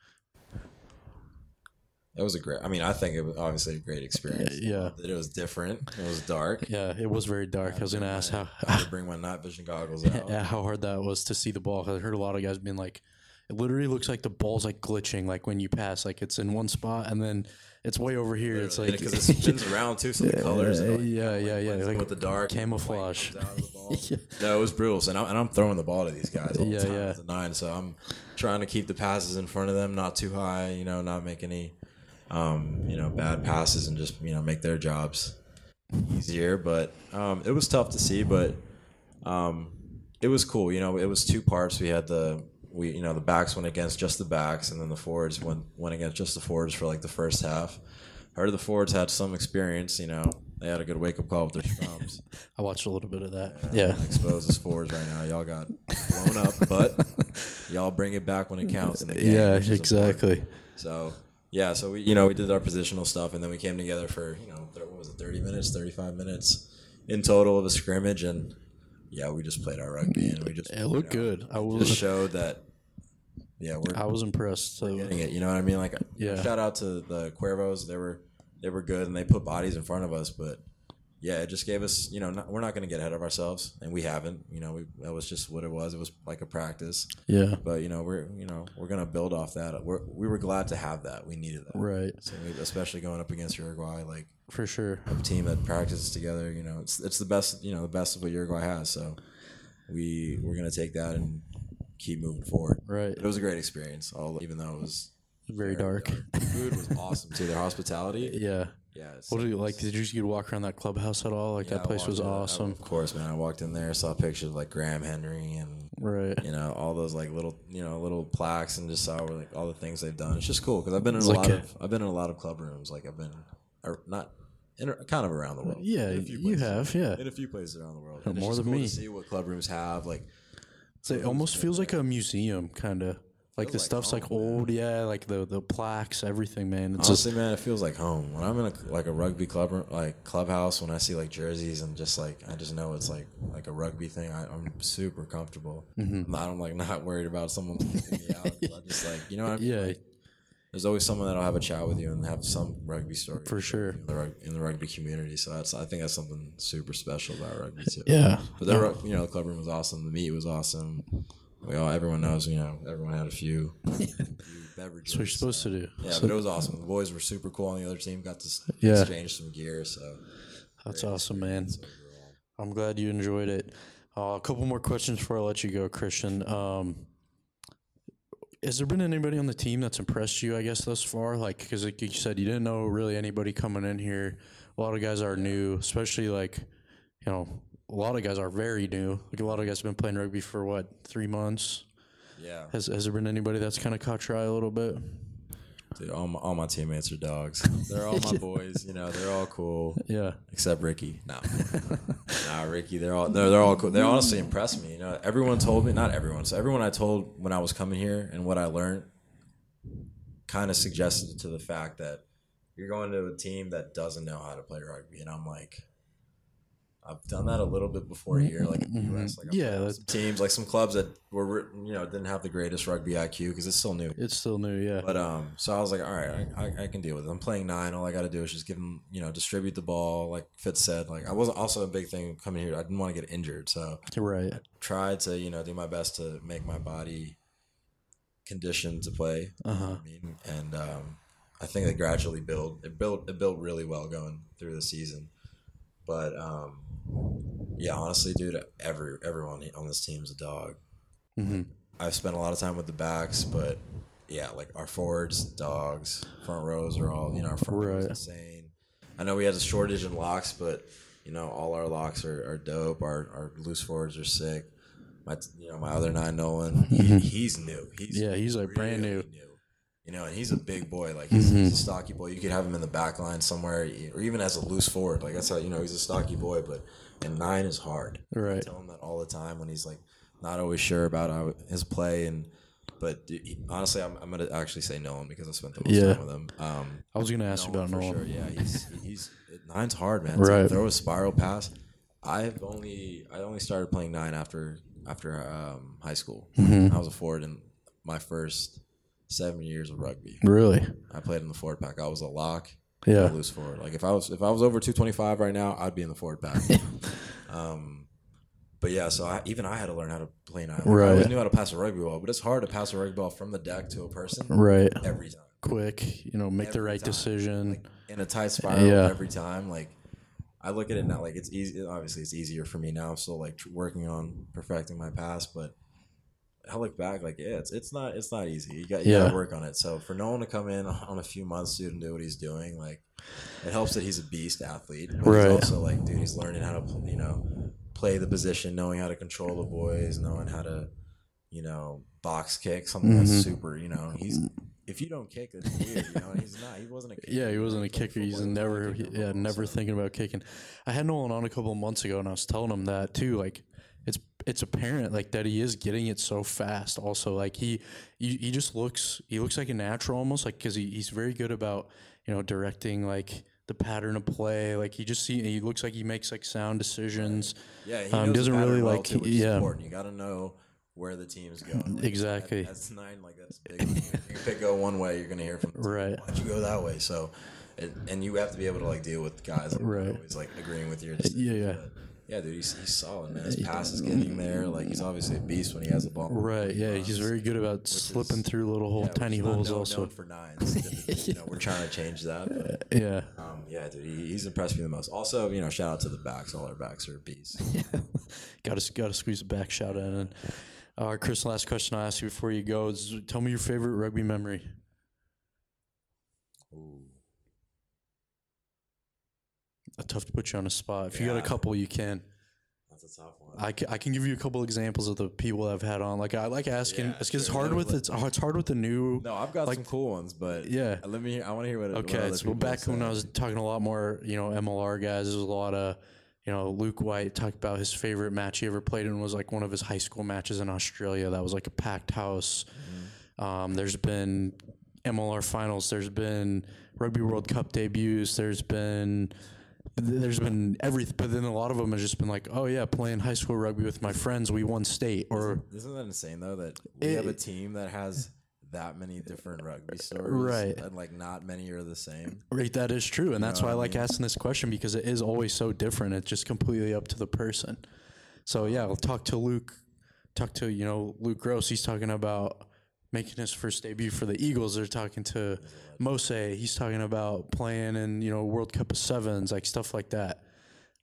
S2: It was a great. I mean, I think it was obviously a great experience.
S1: Yeah.
S2: That it was different. It was dark.
S1: Yeah, it was very dark. I was gonna
S2: bring
S1: ask
S2: my-
S1: how
S2: I had to bring my night vision goggles out.
S1: yeah, how hard that was to see the ball. 'Cause I heard a lot of guys being like, it literally looks like the ball's like glitching, like when you pass, like it's in one spot and then it's way over here. It's like
S2: because it spins around too, so the colors.
S1: yeah,
S2: are like,
S1: yeah, yeah, yeah,
S2: blends in
S1: like
S2: with the dark
S1: camouflage.
S2: the white comes out of the ball.
S1: Yeah.
S2: No, it was brutal. So now, and I'm throwing the ball to these guys all
S1: Yeah,
S2: the time
S1: yeah.
S2: at the nine. So I'm trying to keep the passes in front of them, not too high. You know, not make any, um, you know, bad passes, and just you know make their jobs easier. But um, it was tough to see, but um, it was cool. You know, it was two parts. We had the we you know the backs went against just the backs, and then the forwards went went against just the forwards for like the first half. I heard the forwards had some experience. You know, they had a good wake up call with their scrums.
S1: I watched a little bit of that.
S2: Yeah,
S1: Yeah.
S2: exposed as forwards right now. Y'all got blown up, but y'all bring it back when it counts in the game.
S1: Yeah,
S2: which is important.
S1: exactly.
S2: So yeah, so we you know we did our positional stuff, and then we came together for you know th- what was it, thirty minutes, thirty five minutes in total of a scrimmage, and yeah, we just played our rugby, and we just
S1: It looked
S2: you know,
S1: good. I
S2: just
S1: was
S2: showed that. Yeah, we're
S1: I was impressed. So
S2: getting it. You know what I mean? Like,
S1: Yeah.
S2: shout out to the Cuervos. They were they were good, and they put bodies in front of us. But yeah, it just gave us. You know, not, we're not going to get ahead of ourselves, and we haven't. You know, we, that was just what it was. It was like a practice.
S1: yeah,
S2: But you know, we're you know we're going to build off that. We're, we were glad to have that. We needed that.
S1: right,
S2: So we, especially going up against Uruguay, like
S1: for sure.
S2: a team that practices together. You know, it's it's the best. You know, the best of what Uruguay has. So we we're going to take that and keep moving forward.
S1: Right,
S2: It was a great experience, all, even though it was
S1: very dark.
S2: The food was awesome too. Their hospitality,
S1: Yeah.
S2: yeah. it's-
S1: What do you like? Did you get to walk around that clubhouse at all? Like
S2: yeah,
S1: that
S2: I
S1: place was
S2: walked in- I-
S1: awesome.
S2: Of course, man. I walked in there, saw pictures of like Graham Henry and
S1: Right.
S2: you know all those like little you know little plaques, and just saw like all the things they've done. It's just cool because I've been in
S1: It's
S2: a
S1: like
S2: lot
S1: a-
S2: of I've been in a lot of club rooms. Like I've been or not in, kind of around the world.
S1: Yeah,
S2: In a few
S1: you
S2: places.
S1: have. Yeah.
S2: in a few places around the world.
S1: Oh,
S2: And it's
S1: more
S2: just
S1: than
S2: cool
S1: me.
S2: to see what club rooms have. Like
S1: So it almost feels like a museum, kind of. Like the
S2: Feels like
S1: stuff's
S2: home,
S1: like
S2: man.
S1: old, yeah. Like the the plaques, everything, man. It's just
S2: honestly, man, it feels like home. When I'm in a like a rugby club, room- like clubhouse, when I see like jerseys and just like I just know it's like like a rugby thing. I, I'm super comfortable.
S1: Mhm.
S2: I'm, not, I'm like not worried about someone kicking me out. I just like you know what I mean.
S1: yeah,
S2: Like, there's always someone that'll have a chat with you and have some rugby story
S1: for sure.
S2: in the, rug, in the rugby community. So that's I think that's something super special about rugby too.
S1: Yeah.
S2: But the rug- you know the club room was awesome. The meat was awesome. We all everyone knows you know everyone had a few, few beverages.
S1: That's what you're supposed
S2: so.
S1: to do.
S2: Yeah,
S1: So-
S2: but it was awesome. The boys were super cool on the other team. Got to s-
S1: Yeah.
S2: exchange some gear. So
S1: That's
S2: great
S1: awesome, man.
S2: experience overall.
S1: I'm glad you enjoyed it. Uh, a couple more questions before I let you go, Christian. Um, has there been anybody on the team that's impressed you, I guess, thus far? Like, because like you said, you didn't know really anybody coming in here. A lot of guys are new, especially like, you know, a lot of guys are very new. Like a lot of guys have been playing rugby for what, three months?
S2: Yeah.
S1: Has Has there been anybody that's kind of caught your eye a little bit?
S2: Dude, all my, all my teammates are dogs. They're all my boys. You know, they're all cool.
S1: Yeah.
S2: Except Ricky. No, nah, Ricky. They're all they're, they're all cool. They honestly impressed me. You know, everyone told me, not everyone. So everyone I told when I was coming here and what I learned, kind of suggested to the fact that you're going to a team that doesn't know how to play rugby, and I'm like, I've done that a little bit before here, like in the U S. Like I've
S1: Yeah,
S2: played with some teams, like some clubs that were, you know, didn't have the greatest rugby I Q because it's still new.
S1: It's still new, yeah.
S2: But um, so I was like, all right, I, I, I can deal with it. I'm playing nine. All I got to do is just give them, you know, distribute the ball. Like Fitz said, like I was also a big thing coming here. I didn't want to get injured, so
S1: Right.
S2: I tried to, you know, do my best to make my body conditioned to play.
S1: Uh
S2: You know
S1: huh.
S2: what I mean, and um, I think it gradually built. It built. It built really well going through the season. But um, yeah, honestly, dude, every everyone on this team is a dog.
S1: Mm-hmm.
S2: I've spent a lot of time with the backs, but yeah, like our forwards, dogs, front rows are all, you know, our front rows
S1: Right.
S2: insane. I know we had a shortage in locks, but you know, all our locks are, are dope. Our our loose forwards are sick. My you know my other nine, Nolan, he, he's new. He's
S1: Yeah, he's, like, brand
S2: really
S1: new.
S2: You know, and he's a big boy. Like he's,
S1: Mhm.
S2: he's a stocky boy. You could have him in the back line somewhere, or even as a loose forward. Like that's how you know he's a stocky boy. But and nine is hard. I
S1: Right.
S2: tell him that all the time when he's like not always sure about how, his play. And but dude, he, honestly, I'm, I'm gonna actually say Nolan because I spent the most
S1: Yeah.
S2: time with him. Um,
S1: I was gonna ask you about
S2: for
S1: Nolan.
S2: sure. Yeah, he's he's nine's hard, man.
S1: Right.
S2: To throw a spiral pass. I've only I only started playing nine after after um, high school.
S1: Mhm.
S2: I was a forward in my first seven years of rugby.
S1: Really?
S2: I played in the forward pack. I was a lock,
S1: Yeah.
S2: a loose forward. Like if I was if I was over two twenty-five right now, I'd be in the forward pack. um, but yeah, so I, even I had to learn how to play nine. Like,
S1: Right.
S2: I always knew how to pass a rugby ball, but it's hard to pass a rugby ball from the deck to a person
S1: Right.
S2: every time.
S1: Quick, you know, make the
S2: Every
S1: right
S2: time.
S1: decision.
S2: Like in a tight spiral
S1: Yeah.
S2: every time. Like I look at it now, like it's easy. Obviously, it's easier for me now. I'm still like tr- working on perfecting my pass, but I look back, like yeah, it's it's not it's not easy. You got you
S1: Yeah.
S2: gotta work on it. So for Nolan to come in on a few months, dude, and do what he's doing, like it helps that he's a beast athlete. But
S1: Right.
S2: He's also like, dude, he's learning how to you know play the position, knowing how to control the boys, knowing how to you know box kick, something
S1: Mhm.
S2: that's super. You know, he's if you don't kick, it's weird. You know, and he's not. He wasn't a kicker.
S1: Yeah, he wasn't a
S2: played
S1: kicker. He's
S2: football, he wasn't a
S1: never,
S2: kicker in
S1: yeah,
S2: football,
S1: never
S2: so-
S1: thinking about kicking. I had Nolan on a couple of months ago, and I was telling him that too. Like, it's it's apparent like that he is getting it so fast. Also, like he he, he just looks he looks like a natural almost, like because he, he's very good about you know directing like the pattern of play. Like he just see he looks like he makes like sound decisions.
S2: Yeah, he
S1: Um,
S2: knows
S1: doesn't
S2: the pattern
S1: really,
S2: well
S1: like-
S2: too, which is
S1: yeah.
S2: important. You got to know where the team's going. Like,
S1: Exactly.
S2: that- that's nine. Like that's big. You pick go one way, you're gonna hear from the team,
S1: Right.
S2: Why'd you go that way? So, it, and you have to be able to like deal with guys that
S1: Right.
S2: are always like agreeing with your decisions.
S1: Yeah, yeah.
S2: But, yeah, dude, he's, he's solid, man. His pass is getting there. Like he's obviously a beast when he has the ball.
S1: Right. Yeah, he's very good about
S2: is-
S1: slipping through little hole,
S2: Yeah, which
S1: tiny
S2: is not
S1: holes.
S2: known-
S1: Also,
S2: known for nines. typically. You know, we're trying to change that. But,
S1: yeah.
S2: um, yeah, dude, he, he's impressed me the most. Also, you know, shout out to the backs. All our backs are beasts.
S1: got to got to squeeze a back shout in. And uh, Chris, last question I will ask you before you go is: tell me your favorite rugby memory.
S2: Ooh.
S1: Uh, tough to put you on a spot. If you got
S2: Yeah.
S1: a couple, you can.
S2: That's a tough one.
S1: I, ca- I can give you a couple examples of the people I've had on. Like I like asking.
S2: Yeah,
S1: it's 'cause it's
S2: sure.
S1: hard
S2: Let-
S1: with
S2: let-
S1: it's oh, it's hard with the new.
S2: No, I've got
S1: like-
S2: some cool ones, but
S1: Yeah.
S2: let me. Hear, I want to hear what. what
S1: Okay,
S2: other
S1: so
S2: people
S1: back when I
S2: say.
S1: was talking a lot more, you know, M L R guys, there's a lot of, you know, Luke White talked about his favorite match he ever played in was like one of his high school matches in Australia. That was like a packed house.
S2: Mm-hmm.
S1: Um, there's been M L R finals. There's been Rugby World Cup debuts. There's been there's been everything, but then a lot of them have just been like, oh yeah, playing high school rugby with my friends, we won state, or
S2: Isn't that insane though that we
S1: It-
S2: have a team that has that many different rugby stories,
S1: Right.
S2: And like not many are the same.
S1: right, that is true, and that's
S2: know
S1: why I
S2: what I
S1: like
S2: mean?
S1: asking this question because it is always so different. It's just completely up to the person. So yeah, we'll talk to Luke, talk to you know Luke Gross. He's talking about making his first debut for the Eagles. They're talking to Mose. He's talking about playing in you know World Cup of Sevens, like stuff like that.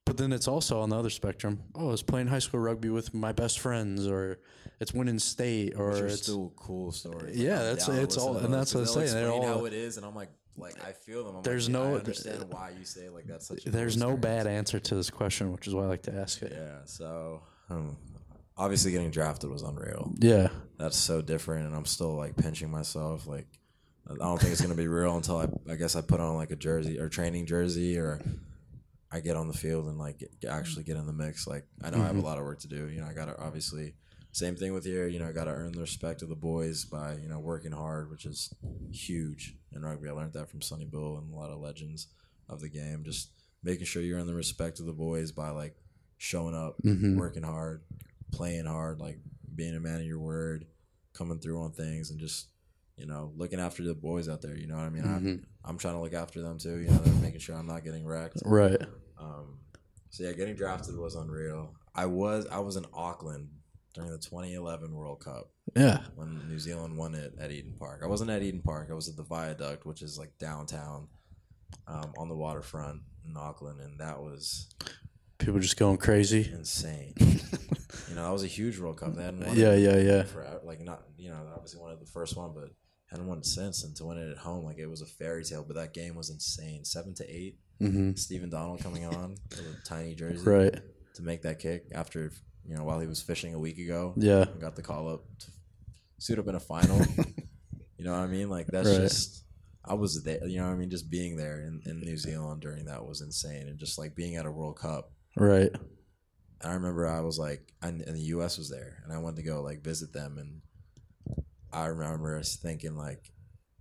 S1: But then it's also on the other spectrum. Oh, I was playing high school rugby with my best friends, or it's winning state, or
S2: Which are
S1: it's
S2: still cool stories.
S1: Yeah,
S2: I'm
S1: that's-
S2: down to
S1: it's
S2: listen
S1: all-
S2: to
S1: and
S2: those,
S1: that's what
S2: 'cause
S1: I'm
S2: they'll
S1: saying, they're
S2: explain
S1: all-
S2: how it is, and I'm like, like I feel them. I'm
S1: There's
S2: like, yeah,
S1: no-
S2: I understand why you say like that's such. A
S1: there's
S2: cool
S1: no
S2: experience.
S1: bad answer to this question, which is why I like to ask it.
S2: Yeah. So um, obviously, getting drafted was unreal.
S1: Yeah,
S2: That's so different, and I'm still like pinching myself. Like, I don't think it's gonna be real until I, I guess I put on like a jersey or training jersey, or I get on the field and like get, actually get in the mix. Like, I know mm-hmm. I have a lot of work to do. You know, I gotta obviously same thing with here. You know, I gotta earn the respect of the boys by you know working hard, which is huge in rugby. I learned that from Sonny Bill and a lot of legends of the game. Just making sure you earn the respect of the boys by like showing up, mm-hmm. working hard, playing hard, like being a man of your word, coming through on things, and just you know looking after the boys out there. You know what I mean? Mm-hmm. I'm I'm trying to look after them too. You know, they're making sure I'm not getting wrecked.
S1: Right.
S2: Um, so yeah, getting drafted was unreal. I was I was in Auckland during the twenty eleven World Cup.
S1: Yeah.
S2: When New Zealand won it at Eden Park. I wasn't at Eden Park. I was at the Viaduct, which is like downtown, um, on the waterfront in Auckland, and that was
S1: people just going crazy.
S2: Insane. You know, that was a huge World Cup. They hadn't won
S1: yeah,
S2: it
S1: yeah, yeah.
S2: For, like not, you know, obviously won it the first one, but hadn't won it since. And to win it at home, like it was a fairy tale. But that game was insane. Seven to eight. Mm-hmm. Stephen Donald coming on with a tiny jersey,
S1: right,
S2: to make that kick after you know while he was fishing a week ago.
S1: Yeah,
S2: and got the call up to suit up in a final. You know what I mean? Like that's
S1: right.
S2: just. I was there. You know what I mean? Just being there in, in New Zealand during that was insane, and just like being at a World Cup.
S1: Right.
S2: I remember I was like, and, and the U S was there, and I went to go like visit them, and I remember us thinking like,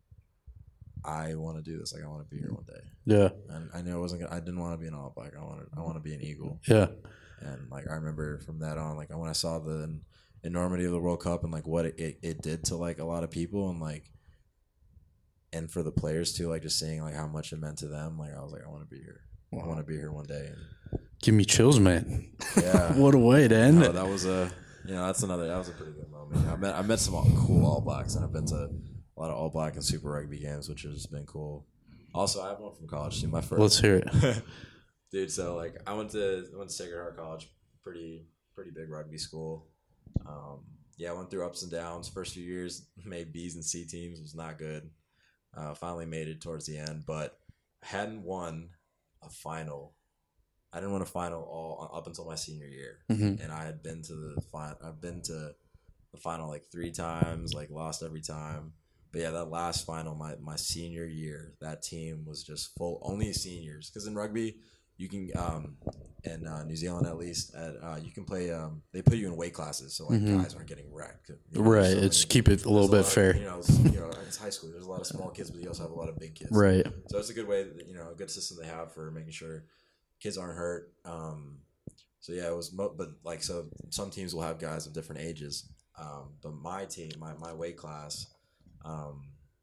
S2: I want to do this. Like, I want to be here one day.
S1: Yeah.
S2: And I knew I wasn't. Gonna, I didn't want to be an All Black. I wanted. I want to be an Eagle.
S1: Yeah.
S2: And like I remember from that on, like when I saw the enormity of the World Cup and like what it, it, it did to like a lot of people, and like, and for the players too, like just seeing like how much it meant to them. Like I was like, I want to be here. Wow. I want to be here one day. And
S1: give me chills, man.
S2: Yeah.
S1: What a way to end
S2: no,
S1: it.
S2: That was a, you know, that's another, that was a pretty good moment. You know, I met, I met some cool All Blacks, and I've been to a lot of All Black and Super Rugby games, which has been cool. Also, I have one from college too. My first.
S1: Let's hear it.
S2: Dude, so like I went to I went to Sacred Heart College, pretty pretty big rugby school. Um, yeah, I went through ups and downs. First few years, made B's and C teams, was not good. Uh, finally made it towards the end, but hadn't won a final. I didn't win a final all up until my senior year, mm-hmm. and I had been to the final. I've been to the final like three times, like lost every time. But yeah, that last final, my my senior year, that team was just full, only seniors. Because in rugby, you can, um, in uh, New Zealand at least, at, uh, you can play. Um, they put you in weight classes, so like mm-hmm. guys aren't getting wrecked. You know,
S1: right.
S2: so
S1: it's
S2: many,
S1: keep it a little bit
S2: a
S1: fair.
S2: Of, you know, it's, you know, it's high school. There's a lot of small kids, but you also have a lot of big kids.
S1: Right.
S2: So it's a good way, that, you know, a good system they have for making sure kids aren't hurt. Um, so yeah, it was, mo- but like, so some teams will have guys of different ages. Um, but my team, my my weight class, um,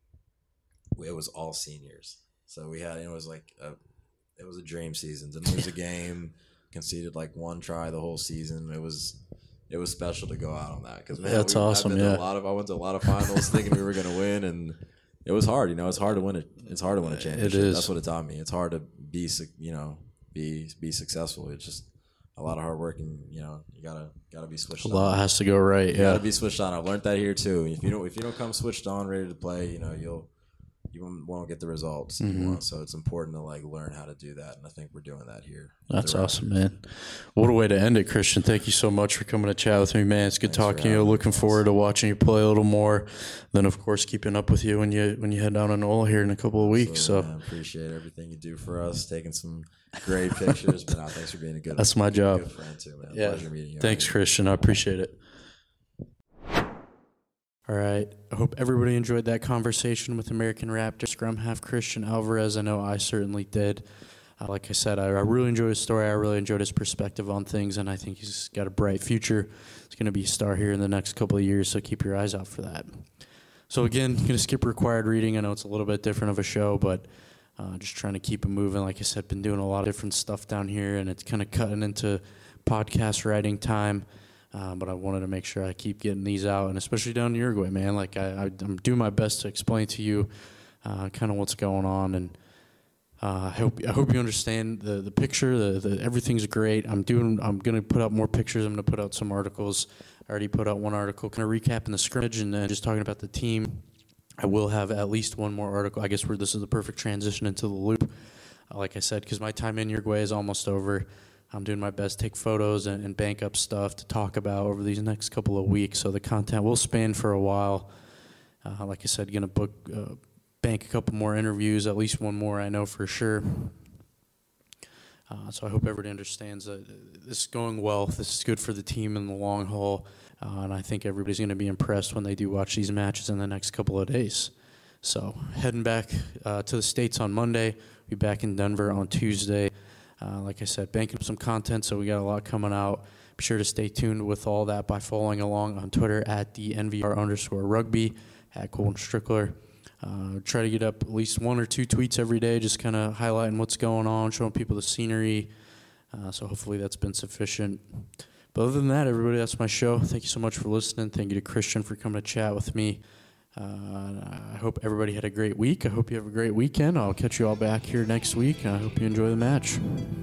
S2: it was all seniors. So we had, it was like a, it was a dream season. Didn't lose a game, conceded like one try the whole season. It was, it was special to go out on that because
S1: that's
S2: we,
S1: awesome.
S2: I've been
S1: yeah,
S2: to a lot of I went to a lot of finals thinking we were going to win, and it was hard. You know, it's hard to win it. It's hard to win a championship.
S1: It is.
S2: That's what it taught me. It's hard to be, you know, be be successful. It's just a lot of hard work, and you know, you gotta gotta be switched
S1: a
S2: on.
S1: lot has to go right.
S2: You
S1: yeah,
S2: gotta be switched on. I've learned that here too. If you don't if you don't come switched on, ready to play, you know, you'll you won't, won't get the results mm-hmm. you want. So it's important to like learn how to do that, and I think we're doing that here.
S1: That's awesome, man. What a way to end it, Christian. Thank you so much for coming to chat with me, man. It's good Thanks talking to you. Looking me, forward to watching you play a little more. Then, of course, keeping up with you when you when you head down to NOLA here in a couple of weeks.
S2: Absolutely,
S1: so
S2: man. Appreciate everything you do for us. Taking some great pictures, but no, thanks for being a good.
S1: That's my job.
S2: Good friend too, man.
S1: Yeah.
S2: Pleasure meeting you.
S1: Thanks, Christian. I appreciate it. All right. I hope everybody enjoyed that conversation with American Raptor scrum half Christian Alvarez. I know I certainly did. Uh, like I said, I, I really enjoyed his story. I really enjoyed his perspective on things, and I think he's got a bright future. He's going to be a star here in the next couple of years, so keep your eyes out for that. So again, going to skip required reading. I know it's a little bit different of a show, but uh, just trying to keep it moving. Like I said, been doing a lot of different stuff down here, and it's kind of cutting into podcast writing time. Uh, but I wanted to make sure I keep getting these out, and especially down in Uruguay, man. Like I, I, I'm doing my best to explain to you uh, kind of what's going on, and Uh, I hope I hope you understand the the picture. The, the everything's great. I'm doing. I'm gonna put out more pictures. I'm gonna put out some articles. I already put out one article, kind of recapping the scrimmage and then just talking about the team. I will have at least one more article. I guess where this is the perfect transition into the loop. Uh, like I said, because my time in Uruguay is almost over. I'm doing my best to take photos and, and bank up stuff to talk about over these next couple of weeks. So the content will span for a while. Uh, like I said, gonna book. Uh, bank a couple more interviews, at least one more I know for sure. Uh, so I hope everybody understands that this is going well. This is good for the team in the long haul, uh, and I think everybody's going to be impressed when they do watch these matches in the next couple of days. So heading back uh, to the States on Monday, be back in Denver on Tuesday. Uh, like I said, banking up some content, so we got a lot coming out. Be sure to stay tuned with all that by following along on Twitter at the N V R underscore rugby, at Colton Strickler. Uh, try to get up at least one or two tweets every day, just kind of highlighting what's going on, showing people the scenery. Uh, so hopefully that's been sufficient. But other than that, everybody, that's my show. Thank you so much for listening. Thank you to Christian for coming to chat with me. Uh, I hope everybody had a great week. I hope you have a great weekend. I'll catch you all back here next week, and I hope you enjoy the match.